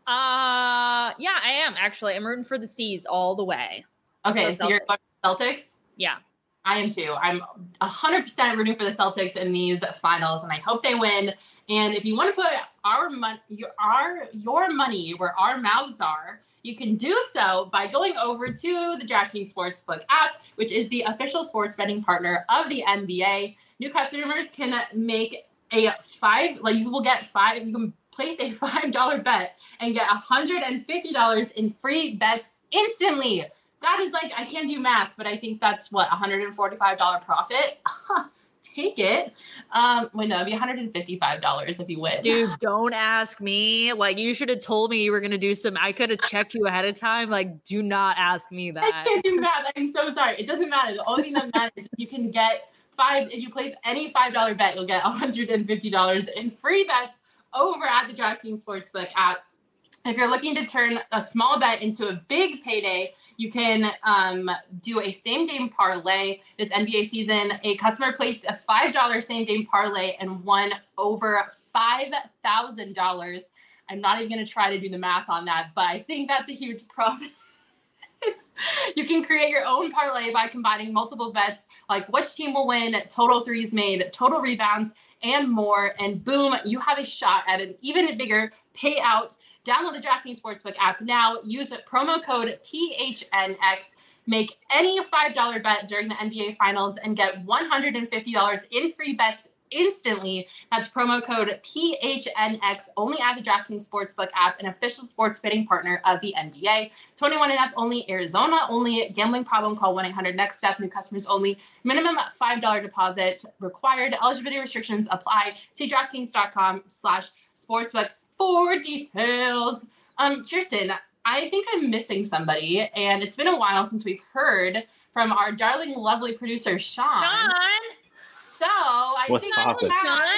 Yeah, I am actually. I'm rooting for the C's all the way. Okay, so you're going for Celtics? Yeah. I am too. I'm 100% rooting for the Celtics in these finals, and I hope they win. And if you want to put your money where our mouths are, you can do so by going over to the DraftKings Sportsbook app, which is the official sports betting partner of the NBA. New customers can make you can place a $5 bet and get $150 in free bets instantly. That is like, I can't do math, but I think that's what, $145 profit? take it. Wait, no, it'd be $155 if you win. Dude, don't ask me. Like, you should have told me you were going to do some. I could have checked you ahead of time. Like, do not ask me that. I can't do math. I'm so sorry. It doesn't matter. The only thing that matters is you can get if you place any $5 bet, you'll get $150 in free bets over at the DraftKings Sportsbook app. If you're looking to turn a small bet into a big payday, you can do a same-game parlay this NBA season. A customer placed a $5 same-game parlay and won over $5,000. I'm not even going to try to do the math on that, but I think that's a huge profit. You can create your own parlay by combining multiple bets, like which team will win, total threes made, total rebounds, and more. And boom, you have a shot at an even bigger payout. Download the DraftKings Sportsbook app now. Use promo code PHNX. Make any $5 bet during the NBA Finals and get $150 in free bets instantly. That's promo code PHNX only at the DraftKings Sportsbook app, an official sports betting partner of the NBA. 21 and up only, Arizona only. Gambling problem, call 1-800-NEXT-STEP. New customers only. Minimum $5 deposit required. Eligibility restrictions apply. See DraftKings.com/sportsbook for details. Kirsten, I think I'm missing somebody, and it's been a while since we've heard from our darling, lovely producer, Sean. So I think I'm to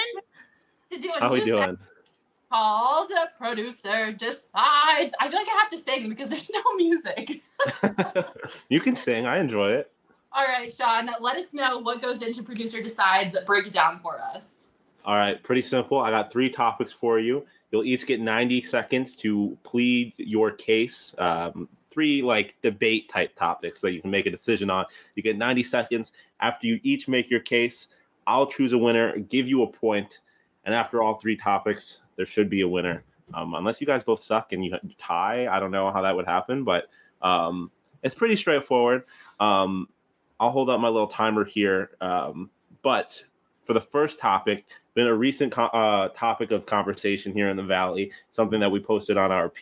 do a new segment called Producer Decides. I feel like I have to sing because there's no music. You can sing. I enjoy it. All right, Sean, let us know what goes into Producer Decides. Break it down for us. All right, pretty simple. I got 3 topics for you. You'll each get 90 seconds to plead your case. 3 like debate type topics that you can make a decision on. You get 90 seconds. After you each make your case, I'll choose a winner, give you a point, and after all 3 topics, there should be a winner. Unless you guys both suck and you tie, I don't know how that would happen, but it's pretty straightforward. I'll hold up my little timer here, but for the first topic, been a recent topic of conversation here in the Valley, something that we posted on our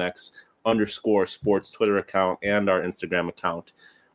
PHNX_sports Twitter account and our Instagram account.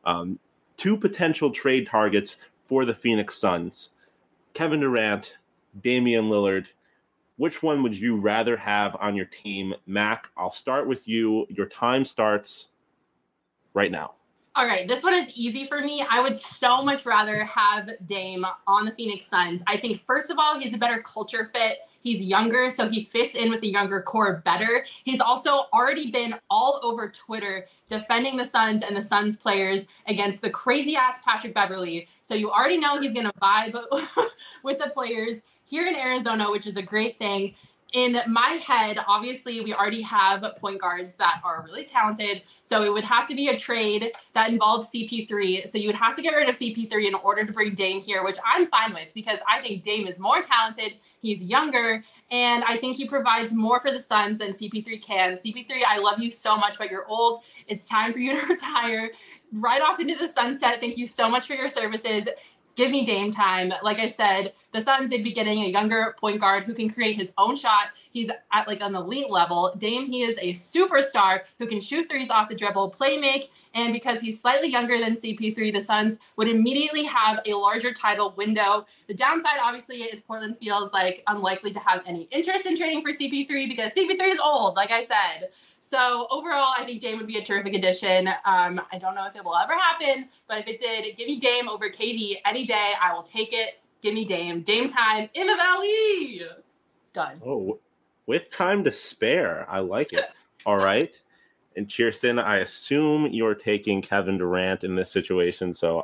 2 potential trade targets for the Phoenix Suns. Kevin Durant, Damian Lillard. Which one would you rather have on your team? Mac, I'll start with you. Your time starts right now. All right, this one is easy for me. I would so much rather have Dame on the Phoenix Suns. I think, first of all, he's a better culture fit. He's younger, so he fits in with the younger core better. He's also already been all over Twitter defending the Suns and the Suns players against the crazy-ass Patrick Beverley. So you already know he's going to vibe with the players here in Arizona, which is a great thing. In my head, obviously, we already have point guards that are really talented. So it would have to be a trade that involved CP3. So you would have to get rid of CP3 in order to bring Dame here, which I'm fine with because I think Dame is more talented. He's younger, and I think he provides more for the Suns than CP3 can. CP3, I love you so much, but you're old. It's time for you to retire. Right off into the sunset. Thank you so much for your services. Give me Dame time. Like I said, the Suns, they'd be getting a younger point guard who can create his own shot. He's at like an elite level. Dame, he is a superstar who can shoot threes off the dribble, play make, and because he's slightly younger than CP3, the Suns would immediately have a larger title window. The downside, obviously, is Portland feels like unlikely to have any interest in trading for CP3 because CP3 is old, like I said. So overall, I think Dame would be a terrific addition. I don't know if it will ever happen, but if it did, give me Dame over KD any day. I will take it. Give me Dame. Dame time in the Valley. Done. Oh, with time to spare. I like it. All right. And Kirsten, I assume you're taking Kevin Durant in this situation. So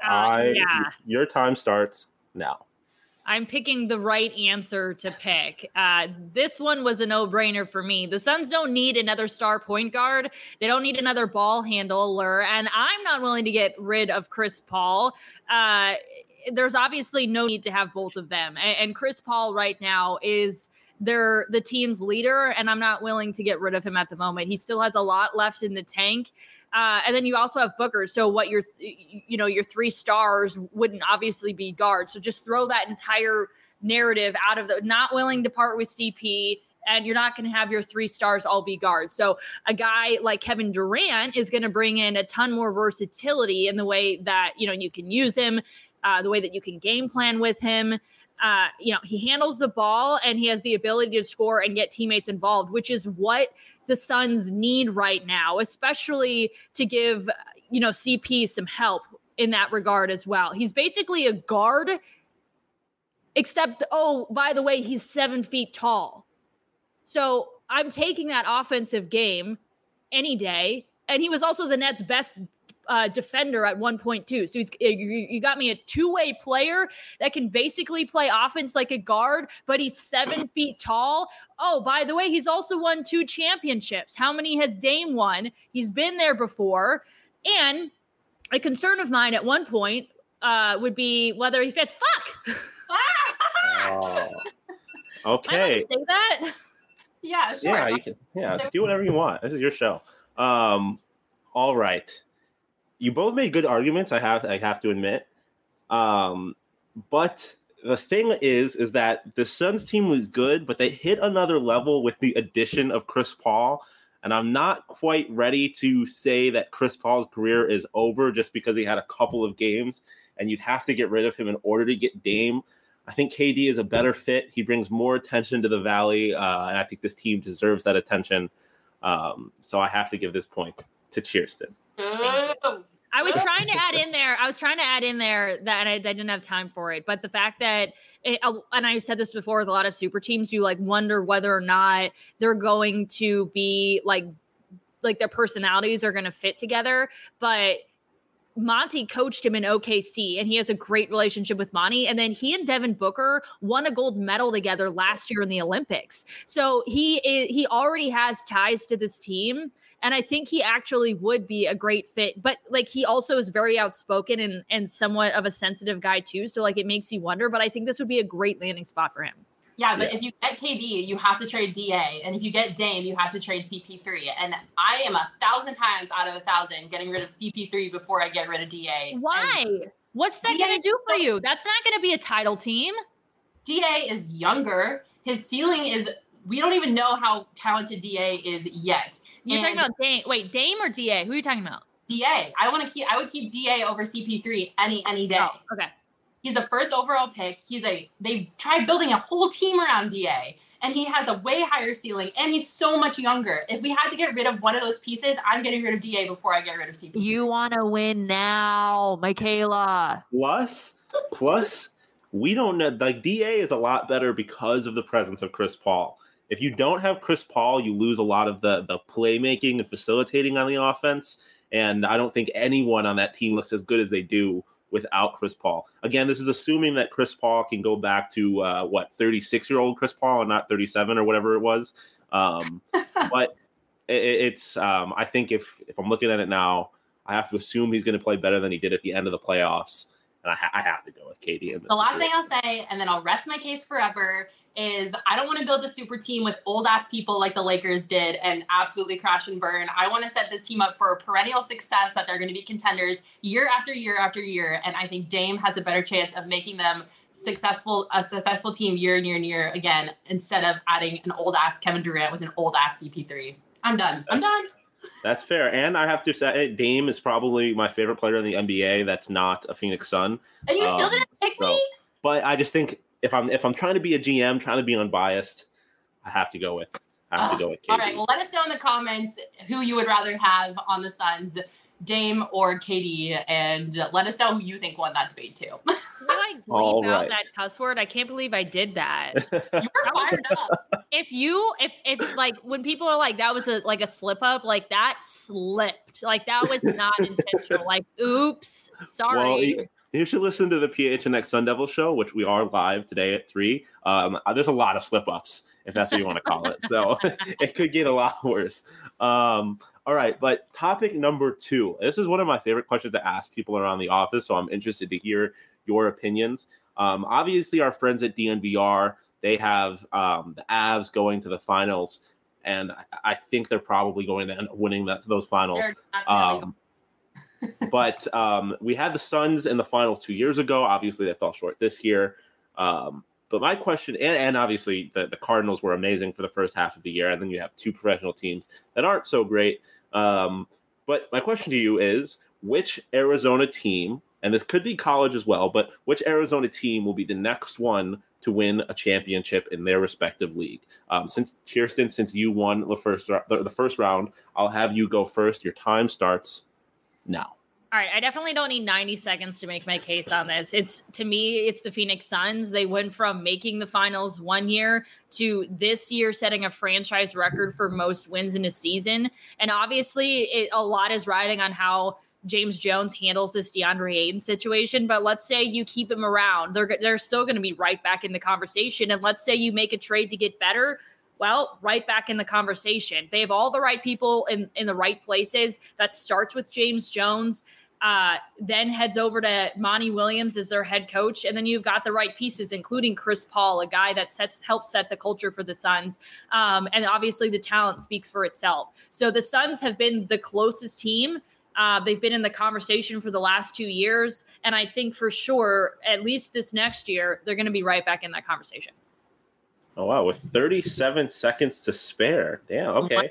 your time starts now. I'm picking the right answer to pick. This one was a no-brainer for me. The Suns don't need another star point guard. They don't need another ball handler. And I'm not willing to get rid of Chris Paul. There's obviously no need to have both of them. And Chris Paul right now is the team's leader, and I'm not willing to get rid of him at the moment. He still has a lot left in the tank. And then you also have Booker. So what your 3 stars wouldn't obviously be guards. So just throw that entire narrative out of not willing to part with CP, and you're not going to have your 3 stars all be guards. So a guy like Kevin Durant is going to bring in a ton more versatility in the way that, you can use him the way that you can game plan with him. He handles the ball and he has the ability to score and get teammates involved, which is what the Suns need right now, especially to give, CP some help in that regard as well. He's basically a guard, except, by the way, he's 7 feet tall. So I'm taking that offensive game any day. And he was also the Nets' best defender at one point too. So you got me a two-way player that can basically play offense like a guard, but he's 7 feet tall. Oh, by the way, he's also won 2 championships. How many has Dame won? He's been there before. And a concern of mine at one point would be whether he fits. Fuck. Okay. Am I allowed to say that? Yeah, sure. Yeah, you can. Yeah, do whatever you want. This is your show. All right. You both made good arguments, I have to admit. But the thing is that the Suns team was good, but they hit another level with the addition of Chris Paul. And I'm not quite ready to say that Chris Paul's career is over just because he had a couple of games, and you'd have to get rid of him in order to get Dame. I think KD is a better fit. He brings more attention to the Valley, and I think this team deserves that attention. So I have to give this point to Cheerston. I was trying to add in there that I didn't have time for it. But the fact that, and I said this before with a lot of super teams, you wonder whether or not they're going to be like their personalities are going to fit together. But Monty coached him in OKC, and he has a great relationship with Monty. And then he and Devin Booker won a gold medal together last year in the Olympics. So he already has ties to this team. And I think he actually would be a great fit. But he also is very outspoken and somewhat of a sensitive guy too. So it makes you wonder. But I think this would be a great landing spot for him. Yeah, but if you get KD, you have to trade DA. And if you get Dame, you have to trade CP3. And I am 1,000 times out of 1,000 getting rid of CP3 before I get rid of DA. Why? What's that going to do for you? That's not going to be a title team. DA is younger. His ceiling is, we don't even know how talented DA is yet. You're talking about Dame. Wait, Dame or DA? Who are you talking about? DA. I would keep DA over CP3 any day. Oh, okay. He's the first overall pick. They tried building a whole team around DA, and he has a way higher ceiling, and he's so much younger. If we had to get rid of one of those pieces, I'm getting rid of DA before I get rid of CP3. You want to win now, Michaela. Plus, we don't know. DA is a lot better because of the presence of Chris Paul. If you don't have Chris Paul, you lose a lot of the playmaking and facilitating on the offense. And I don't think anyone on that team looks as good as they do without Chris Paul. Again, this is assuming that Chris Paul can go back to 36-year-old Chris Paul and not 37 or whatever it was. But it's I think if I'm looking at it now, I have to assume he's going to play better than he did at the end of the playoffs. And I have to go with KD. The last thing I'll say, and then I'll rest my case forever, is I don't want to build a super team with old-ass people like the Lakers did and absolutely crash and burn. I want to set this team up for a perennial success, that they're going to be contenders year after year after year. And I think Dame has a better chance of making them a successful team year and year and year again, instead of adding an old-ass Kevin Durant with an old-ass CP3. I'm done. That's fair. And I have to say, Dame is probably my favorite player in the NBA that's not a Phoenix Sun. And you still didn't pick me? But I just think if I'm trying to be a GM, trying to be unbiased, I have to go with KD. All right. Well, let us know in the comments who you would rather have on the Suns, Dame or KD, and let us know who you think won that debate too. I bleep out that cuss word? I can't believe I did that. You were fired up. If when people are like, that was a slip up, that slipped. That was not intentional. Oops, sorry. Well, you should listen to the PHNX Sun Devil show, which we are live today at 3. There's a lot of slip ups, if that's what you want to call it. So it could get a lot worse. All right, but topic number 2. This is one of my favorite questions to ask people around the office, so I'm interested to hear your opinions. Obviously, our friends at DNVR, they have the Avs going to the finals, and I think they're probably going to end up winning those finals. But we had the Suns in the finals 2 years ago. Obviously, they fell short this year. But my question, and obviously the Cardinals were amazing for the first half of the year, and then you have 2 professional teams that aren't so great. But my question to you is, which Arizona team and this could be college as well, but which Arizona team will be the next one to win a championship in their respective league? Since Kirsten, since you won the first round, I'll have you go first. Your time starts now. All right, I definitely don't need 90 seconds to make my case on this. To me, it's the Phoenix Suns. They went from making the finals one year to this year setting a franchise record for most wins in a season. And obviously, a lot is riding on how James Jones handles this DeAndre Ayton situation. But let's say you keep him around. They're still going to be right back in the conversation. And let's say you make a trade to get better. Well, right back in the conversation. They have all the right people in the right places. That starts with James Jones, then heads over to Monty Williams as their head coach. And then you've got the right pieces, including Chris Paul, a guy that helps set the culture for the Suns. And obviously the talent speaks for itself. So the Suns have been the closest team. They've been in the conversation for the last 2 years. And I think for sure, at least this next year, they're going to be right back in that conversation. Oh, wow. With 37 seconds to spare. Damn. Okay.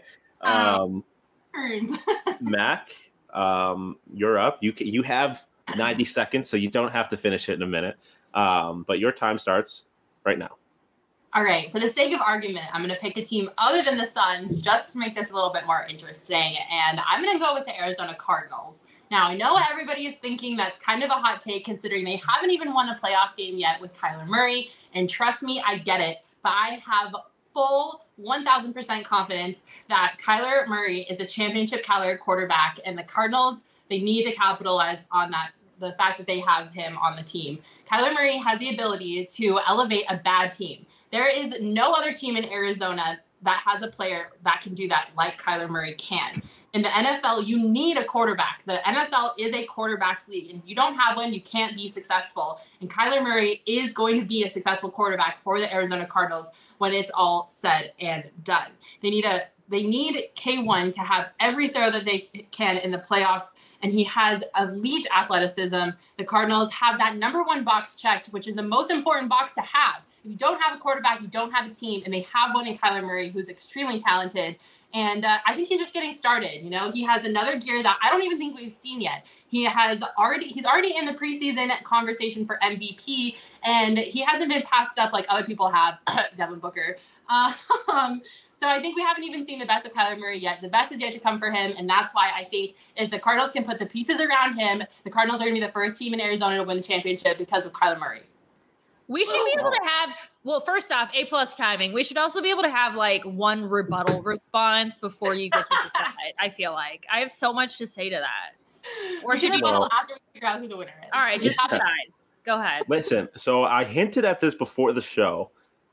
Mac, you're up. You have 90 seconds, so you don't have to finish it in a minute. But your time starts right now. All right. For the sake of argument, I'm going to pick a team other than the Suns just to make this a little bit more interesting. And I'm going to go with the Arizona Cardinals. Now, I know everybody is thinking that's kind of a hot take considering they haven't even won a playoff game yet with Kyler Murray. And trust me, I get it. But I have full 1,000% confidence that Kyler Murray is a championship caliber quarterback, and the Cardinals, they need to capitalize on that, the fact that they have him on the team. Kyler Murray has the ability to elevate a bad team. There is no other team in Arizona that has a player that can do that like Kyler Murray can. In the NFL, you need a quarterback. The NFL is a quarterback's league. And if you don't have one, you can't be successful. And Kyler Murray is going to be a successful quarterback for the Arizona Cardinals when it's all said and done. They need K1 to have every throw that they can in the playoffs, and he has elite athleticism. The Cardinals have that number one box checked, which is the most important box to have. If you don't have a quarterback, you don't have a team, and they have one in Kyler Murray, who's extremely talented. And I think he's just getting started. You know, he has another gear that I don't even think we've seen yet. He's already in the preseason conversation for MVP, and he hasn't been passed up like other people have, Devin Booker. So I think we haven't even seen the best of Kyler Murray yet. The best is yet to come for him, and that's why I think if the Cardinals can put the pieces around him, the Cardinals are going to be the first team in Arizona to win the championship because of Kyler Murray. We should be able to have, well, first off, A+ timing. We should also be able to have like one rebuttal response before you get to decide. I feel like I have so much to say to that. Or should you just after we figure out who the winner is? All right, just decide. Go ahead. Listen, so I hinted at this before the show.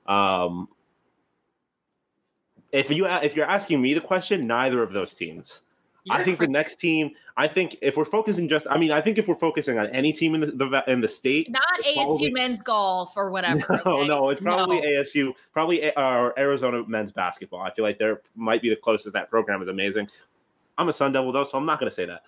If you're asking me the question, neither of those teams. I think the next team. I think if we're focusing if we're focusing on any team in the state, not ASU men's golf or whatever. No, it's probably ASU, probably Arizona men's basketball. I feel like there might be the closest. That program is amazing. I'm a Sun Devil though, so I'm not going to say that.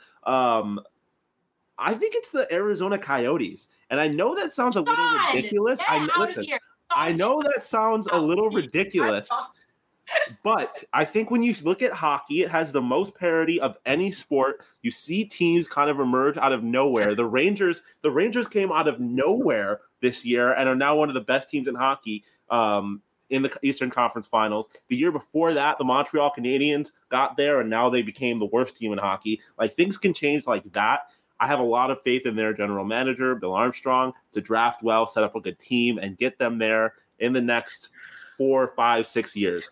I think it's the Arizona Coyotes, and I know that sounds a little ridiculous. I know that sounds a little ridiculous. But I think when you look at hockey, it has the most parity of any sport. You see teams kind of emerge out of nowhere. The Rangers came out of nowhere this year and are now one of the best teams in hockey in the Eastern Conference Finals. The year before that, the Montreal Canadiens got there, and now they became the worst team in hockey. Like, things can change like that. I have a lot of faith in their general manager, Bill Armstrong, to draft well, set up a good team, and get them there in the next 4, 5, 6 years.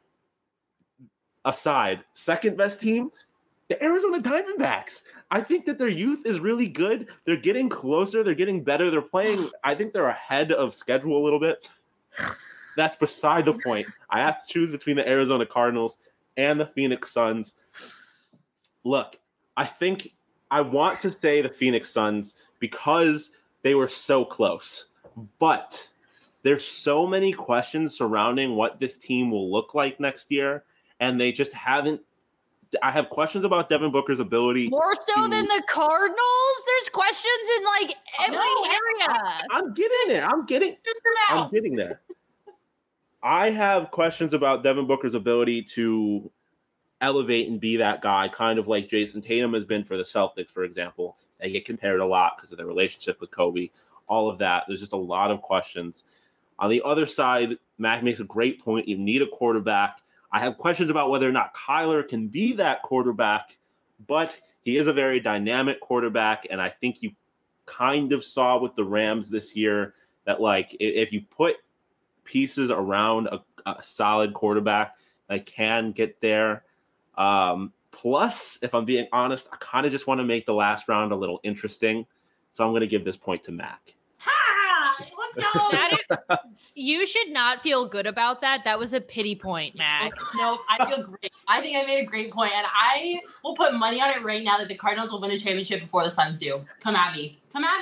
Aside, second best team, the Arizona Diamondbacks. I think that their youth is really good. They're getting closer. They're getting better. They're playing. I think they're ahead of schedule a little bit. That's beside the point. I have to choose between the Arizona Cardinals and the Phoenix Suns. Look, I think I want to say the Phoenix Suns because they were so close. But there's so many questions surrounding what this team will look like next year. And they just haven't. I have questions about Devin Booker's ability. More so than the Cardinals? There's questions in like every area. I'm getting there. I'm getting there. I have questions about Devin Booker's ability to elevate and be that guy, kind of like Jason Tatum has been for the Celtics, for example. They get compared a lot because of their relationship with Kobe, all of that. There's just a lot of questions. On the other side, Mac makes a great point. You need a quarterback. I have questions about whether or not Kyler can be that quarterback, but he is a very dynamic quarterback, and I think you kind of saw with the Rams this year that, like, if you put pieces around a solid quarterback, they can get there. Plus, if I'm being honest, I kind of just want to make the last round a little interesting, so I'm going to give this point to Mac. Let's go. You should not feel good about that. That was a pity point, Mac. No, I feel great. I think I made a great point, and I will put money on it right now that the Cardinals will win a championship before the Suns do. Come at me.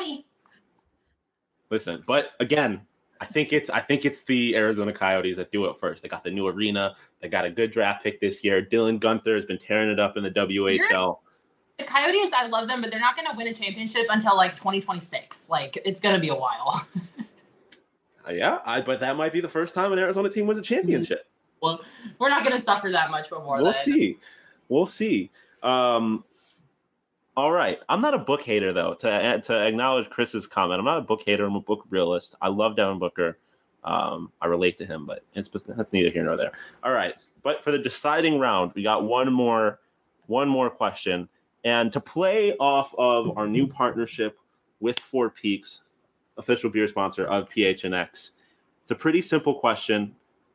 Listen, but again, I think it's the Arizona Coyotes that do it first. They got the new arena. They got a good draft pick this year. Dylan Guenther has been tearing it up in the WHL. The Coyotes, I love them, but they're not going to win a championship until like 2026. Like, it's going to be a while. But that might be the first time an Arizona team wins a championship. Well, we're not going to suffer that much before. We'll see. All right. I'm not a book hater, though, to acknowledge Chris's comment. I'm not a book hater. I'm a book realist. I love Devin Booker. I relate to him, but that's neither here nor there. All right. But for the deciding round, we got one more question. And to play off of our new partnership with Four Peaks, official beer sponsor of PHNX, it's a pretty simple question.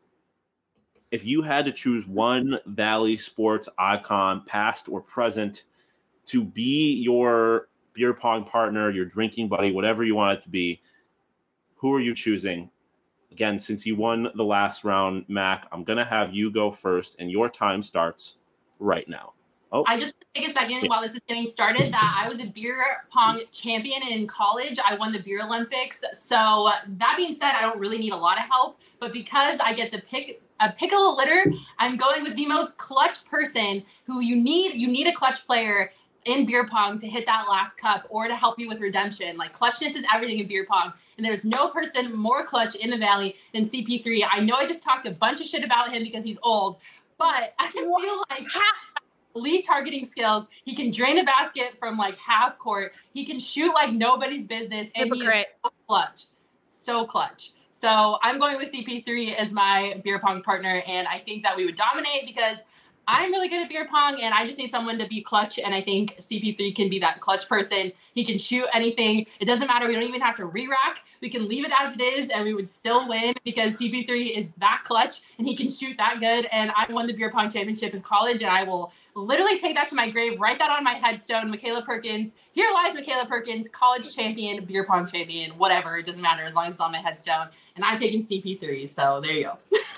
If you had to choose one Valley sports icon, past or present, to be your beer pong partner, your drinking buddy, whatever you want it to be, who are you choosing? Again, since you won the last round, Mac, I'm going to have you go first, and your time starts right now. Oh. I just take a second while this is getting started that I was a beer pong champion in college. I won the Beer Olympics. So that being said, I don't really need a lot of help, but because I get to pick a litter, I'm going with the most clutch person who you need a clutch player in beer pong to hit that last cup or to help you with redemption. Like, clutchness is everything in beer pong. And there's no person more clutch in the Valley than CP3. I know I just talked a bunch of shit about him because he's old, but I feel like lead targeting skills. He can drain a basket from like half court. He can shoot like nobody's business. And Hypocrite. He's so clutch. So I'm going with CP3 as my beer pong partner. And I think that we would dominate because I'm really good at beer pong and I just need someone to be clutch. And I think CP3 can be that clutch person. He can shoot anything. It doesn't matter. We don't even have to re-rack. We can leave it as it is and we would still win because CP3 is that clutch and he can shoot that good. And I won the beer pong championship in college and I will literally take that to my grave, write that on my headstone. Michaela Perkins, here lies Michaela Perkins, college champion, beer pong champion, whatever. It doesn't matter as long as it's on my headstone. And I'm taking CP3. So there you go.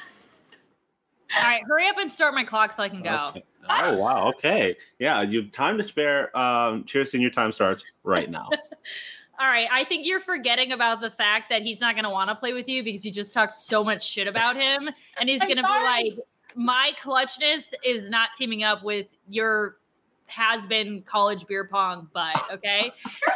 All right, hurry up and start my clock so I can go. Okay. Oh, wow. Okay. Yeah, you have time to spare. Cheers, and your time starts right now. All right, I think you're forgetting about the fact that he's not going to want to play with you because you just talked so much shit about him. And he's going to be like, my clutchness is not teaming up with your has-been college beer pong butt, okay?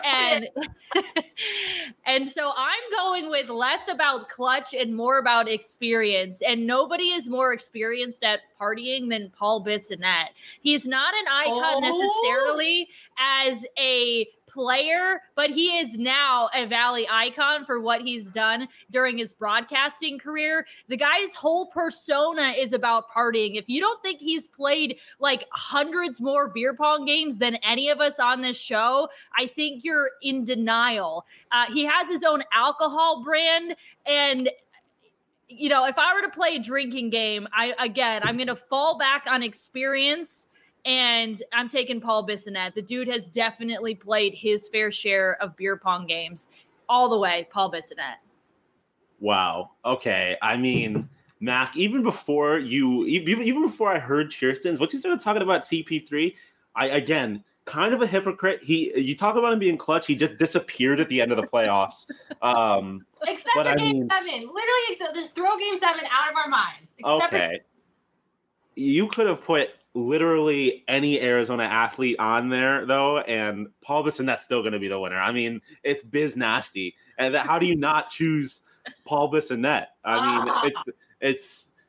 And so I'm going with less about clutch and more about experience. And nobody is more experienced at partying than Paul Bissonnette. He's not an icon necessarily as a player, but he is now a Valley icon for what he's done during his broadcasting career. The guy's whole persona is about partying. If you don't think he's played like hundreds more beer pong games than any of us on this show, I think you're in denial. He has his own alcohol brand, and you know, if I were to play a drinking game, I'm going to fall back on experience. And I'm taking Paul Bissonnette. The dude has definitely played his fair share of beer pong games. All the way, Paul Bissonnette. Wow. Okay. I mean, Mac, even before I heard Kirsten's, what you started talking about CP3, again, kind of a hypocrite. You talk about him being clutch. He just disappeared at the end of the playoffs. Except for Game 7. Literally, just throw Game 7 out of our minds. Okay. You could have put literally any Arizona athlete on there, though, and Paul Bissonnette's still going to be the winner. I mean, it's biz nasty. And how do you not choose Paul Bissonnette? I mean,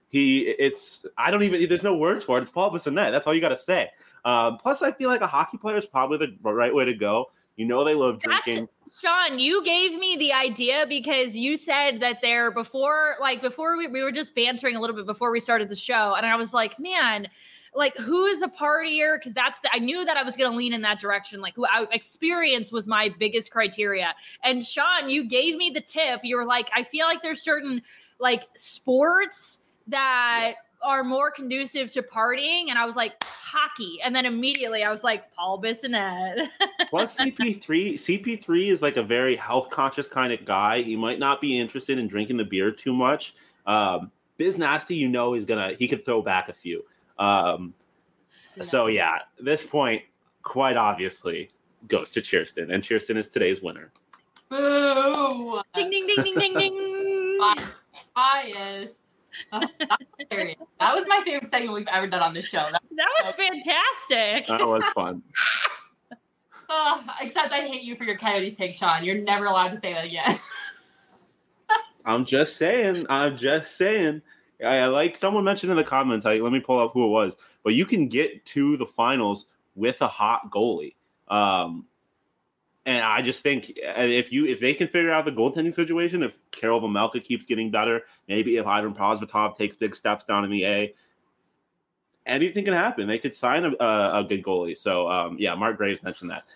There's no words for it. It's Paul Bissonnette. That's all you got to say. Plus, I feel like a hockey player is probably the right way to go. They love drinking. Sean, you gave me the idea because you said that before we were just bantering a little bit before we started the show. And I was like, man, like, who is a partier? Because I knew that I was going to lean in that direction. Like, experience was my biggest criteria. And Sean, you gave me the tip. You were like, I feel like there's certain like sports that are more conducive to partying. And I was like, hockey. And then immediately I was like, Paul Bissonnette. Plus CP3 is like a very health conscious kind of guy. He might not be interested in drinking the beer too much. Biz Nasty, he could throw back a few. So yeah, this point quite obviously goes to Cheerston, and Cheerston is today's winner. Boo! Ding, ding, ding, ding, ding, ding. Bias. That was my favorite segment we've ever done on this show. That was fantastic. That was fun. Except I hate you for your Coyotes take, Sean. You're never allowed to say that again. I'm just saying. I like someone mentioned in the comments. Let me pull up who it was. But you can get to the finals with a hot goalie. And I just think if they can figure out the goaltending situation, if Karel Vejmelka keeps getting better, maybe if Ivan Prosvetov takes big steps down in the A, anything can happen. They could sign a good goalie. So, Mark Graves mentioned that.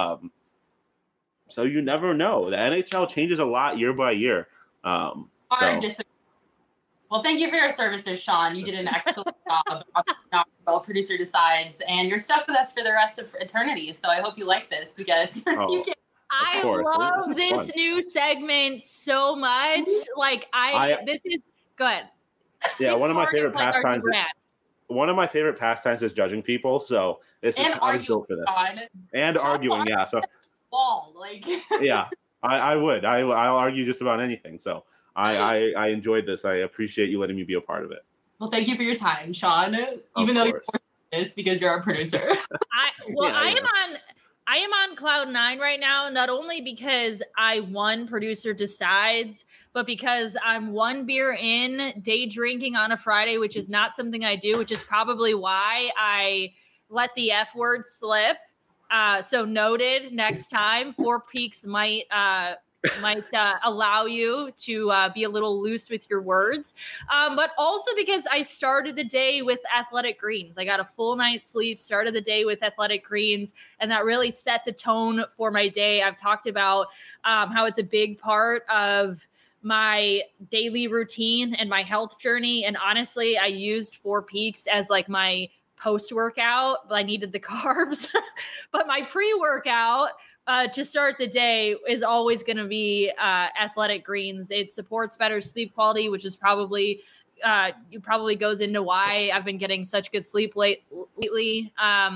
So you never know. The NHL changes a lot year by year. Well, thank you for your services, Sean. You did an excellent job on Producer Decides, and you're stuck with us for the rest of eternity. So I hope you like this because you can. I love this new segment so much. Like this is good. Yeah, one of my favorite pastimes. One of my favorite pastimes is judging people. So this is I would go for this. And arguing, yeah. So yeah, I would. I'll argue just about anything. So. I enjoyed this. I appreciate you letting me be a part of it. Well, thank you for your time, Sean. Even though you're this because you're our producer. I am on cloud 9 right now, not only because I won Producer Decides, but because I'm one beer in, day drinking on a Friday, which is not something I do, which is probably why I let the F word slip. So noted, next time, Four Peaks might allow you to be a little loose with your words. But also because I started the day with Athletic Greens. I got a full night's sleep, started the day with Athletic Greens, and that really set the tone for my day. I've talked about how it's a big part of my daily routine and my health journey. And honestly, I used Four Peaks as like my post-workout, but I needed the carbs. But my pre-workout to start the day is always going to be Athletic Greens. It supports better sleep quality, which is probably goes into why I've been getting such good sleep lately.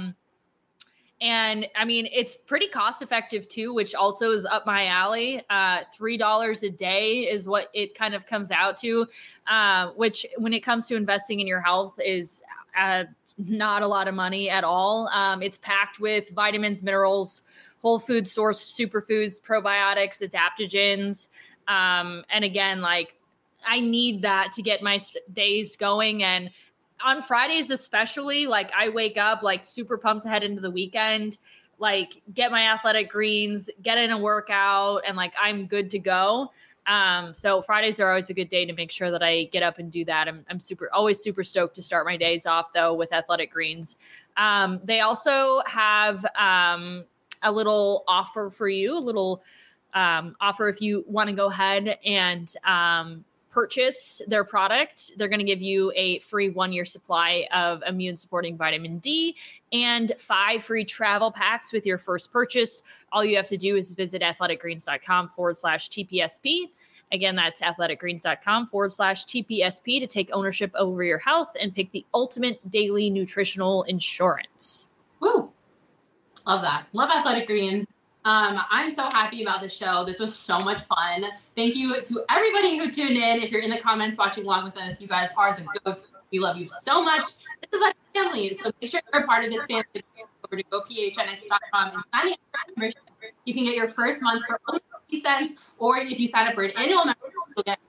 And I mean, it's pretty cost effective too, which also is up my alley. $3 a day is what it kind of comes out to, which when it comes to investing in your health is not a lot of money at all. It's packed with vitamins, minerals, whole food source superfoods, probiotics, adaptogens. And again, like I need that to get my days going. And on Fridays, especially, like I wake up like super pumped to head into the weekend, like get my Athletic Greens, get in a workout, and like I'm good to go. So Fridays are always a good day to make sure that I get up and do that. I'm always super stoked to start my days off though with Athletic Greens. They also have a little offer for you, a little offer if you want to go ahead and purchase their product. They're going to give you a free 1-year supply of immune supporting vitamin D and 5 free travel packs with your first purchase. All you have to do is visit athleticgreens.com/TPSP. Again, that's athleticgreens.com/TPSP to take ownership over your health and pick the ultimate daily nutritional insurance. Woo! Love that. Love Athletic Greens. I'm so happy about the show. This was so much fun. Thank you to everybody who tuned in. If you're in the comments watching along with us, you guys are the goats. We love you so much. This is like family. So make sure you're a part of this family. Over to gophnx.com and sign up for membership. You can get your first month for only 50 cents, or if you sign up for an annual membership, you'll get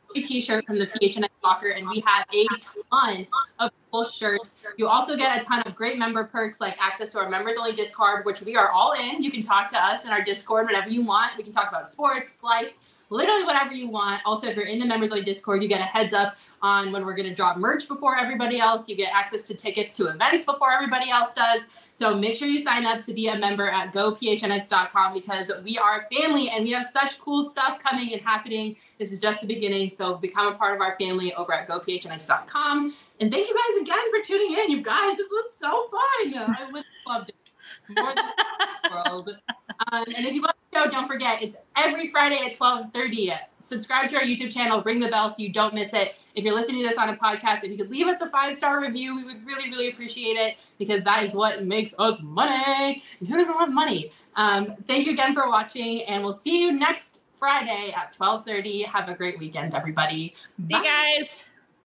a t-shirt from the PHNX locker, and we have a ton of cool shirts. You also get a ton of great member perks like access to our members only Discord, which we are all in. You can talk to us in our Discord whenever you want. We can talk about sports, life, literally whatever you want. Also, if you're in the members only Discord, you get a heads up on when we're going to drop merch before everybody else. You get access to tickets to events before everybody else does. So make sure you sign up to be a member at gophnx.com, because we are a family and we have such cool stuff coming and happening. This is just the beginning. So become a part of our family over at gophnx.com. And thank you guys again for tuning in. You guys, this was so fun. I really loved it. More than the world. And if you love the show, don't forget, it's every Friday at 12:30. Subscribe to our YouTube channel, ring the bell so you don't miss it. If you're listening to this on a podcast, if you could leave us a 5-star review, we would really, really appreciate it, because that is what makes us money. And who doesn't love money? Thank you again for watching, and we'll see you next Friday at 12:30. Have a great weekend, everybody. See you guys.